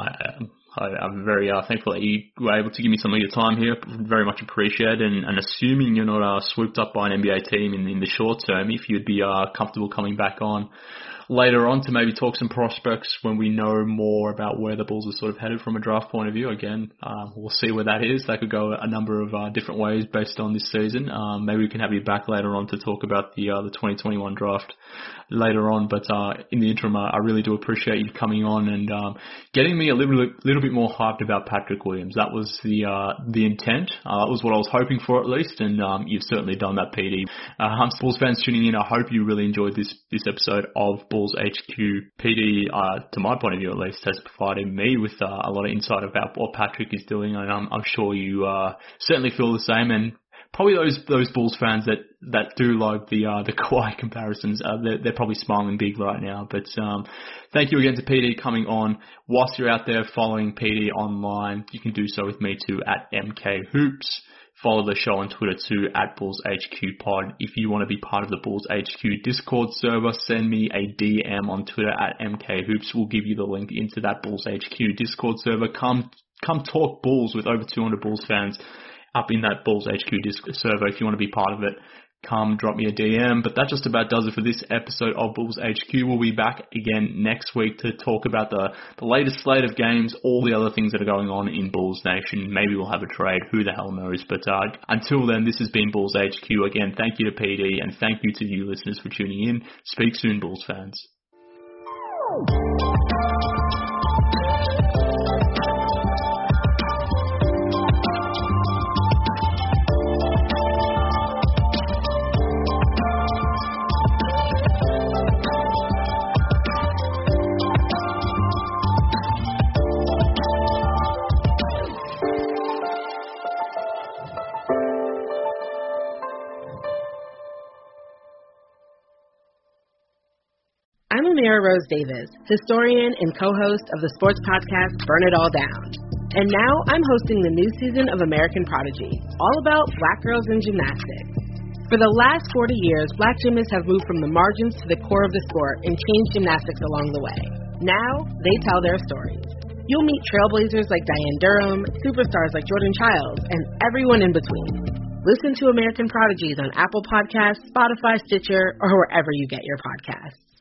I'm very thankful that you were able to give me some of your time here. Very much appreciated, and assuming you're not swooped up by an NBA team in the short term, if you'd be comfortable coming back on later on to maybe talk some prospects when we know more about where the Bulls are sort of headed from a draft point of view. Again, we'll see where that is. That could go a number of different ways based on this season. Maybe we can have you back later on to talk about the 2021 draft later on. But in the interim, I really do appreciate you coming on and getting me a little bit more hyped about Patrick Williams. That was the intent. That was what I was hoping for, at least, and you've certainly done that, PD. Bulls fans tuning in, I hope you really enjoyed this episode of Bulls HQ. PD, to my point of view at least, has provided me with a lot of insight about what Patrick is doing, and I'm sure you certainly feel the same. And probably those Bulls fans that do like the Kawhi comparisons, they're probably smiling big right now. But thank you again to PD coming on. Whilst you're out there following PD online, you can do so with me too at MKHoops. Follow the show on Twitter too at BullsHQPod. If you want to be part of the Bulls HQ Discord server, send me a DM on Twitter at MKHoops. We'll give you the link into that Bulls HQ Discord server. Come talk Bulls with over 200 Bulls fans up in that Bulls HQ Discord server. If you want to be part of it, come drop me a DM. But that just about does it for this episode of Bulls HQ. We'll be back again next week to talk about the latest slate of games, all the other things that are going on in Bulls Nation. Maybe we'll have a trade. Who the hell knows? But until then, this has been Bulls HQ. Again, thank you to PD, and thank you to you listeners for tuning in. Speak soon, Bulls fans. I'm Amira Rose Davis, historian and co-host of the sports podcast Burn It All Down. And now I'm hosting the new season of American Prodigy, all about Black girls in gymnastics. For the last 40 years, Black gymnasts have moved from the margins to the core of the sport and changed gymnastics along the way. Now, they tell their stories. You'll meet trailblazers like Diane Durham, superstars like Jordan Childs, and everyone in between. Listen to American Prodigies on Apple Podcasts, Spotify, Stitcher, or wherever you get your podcasts.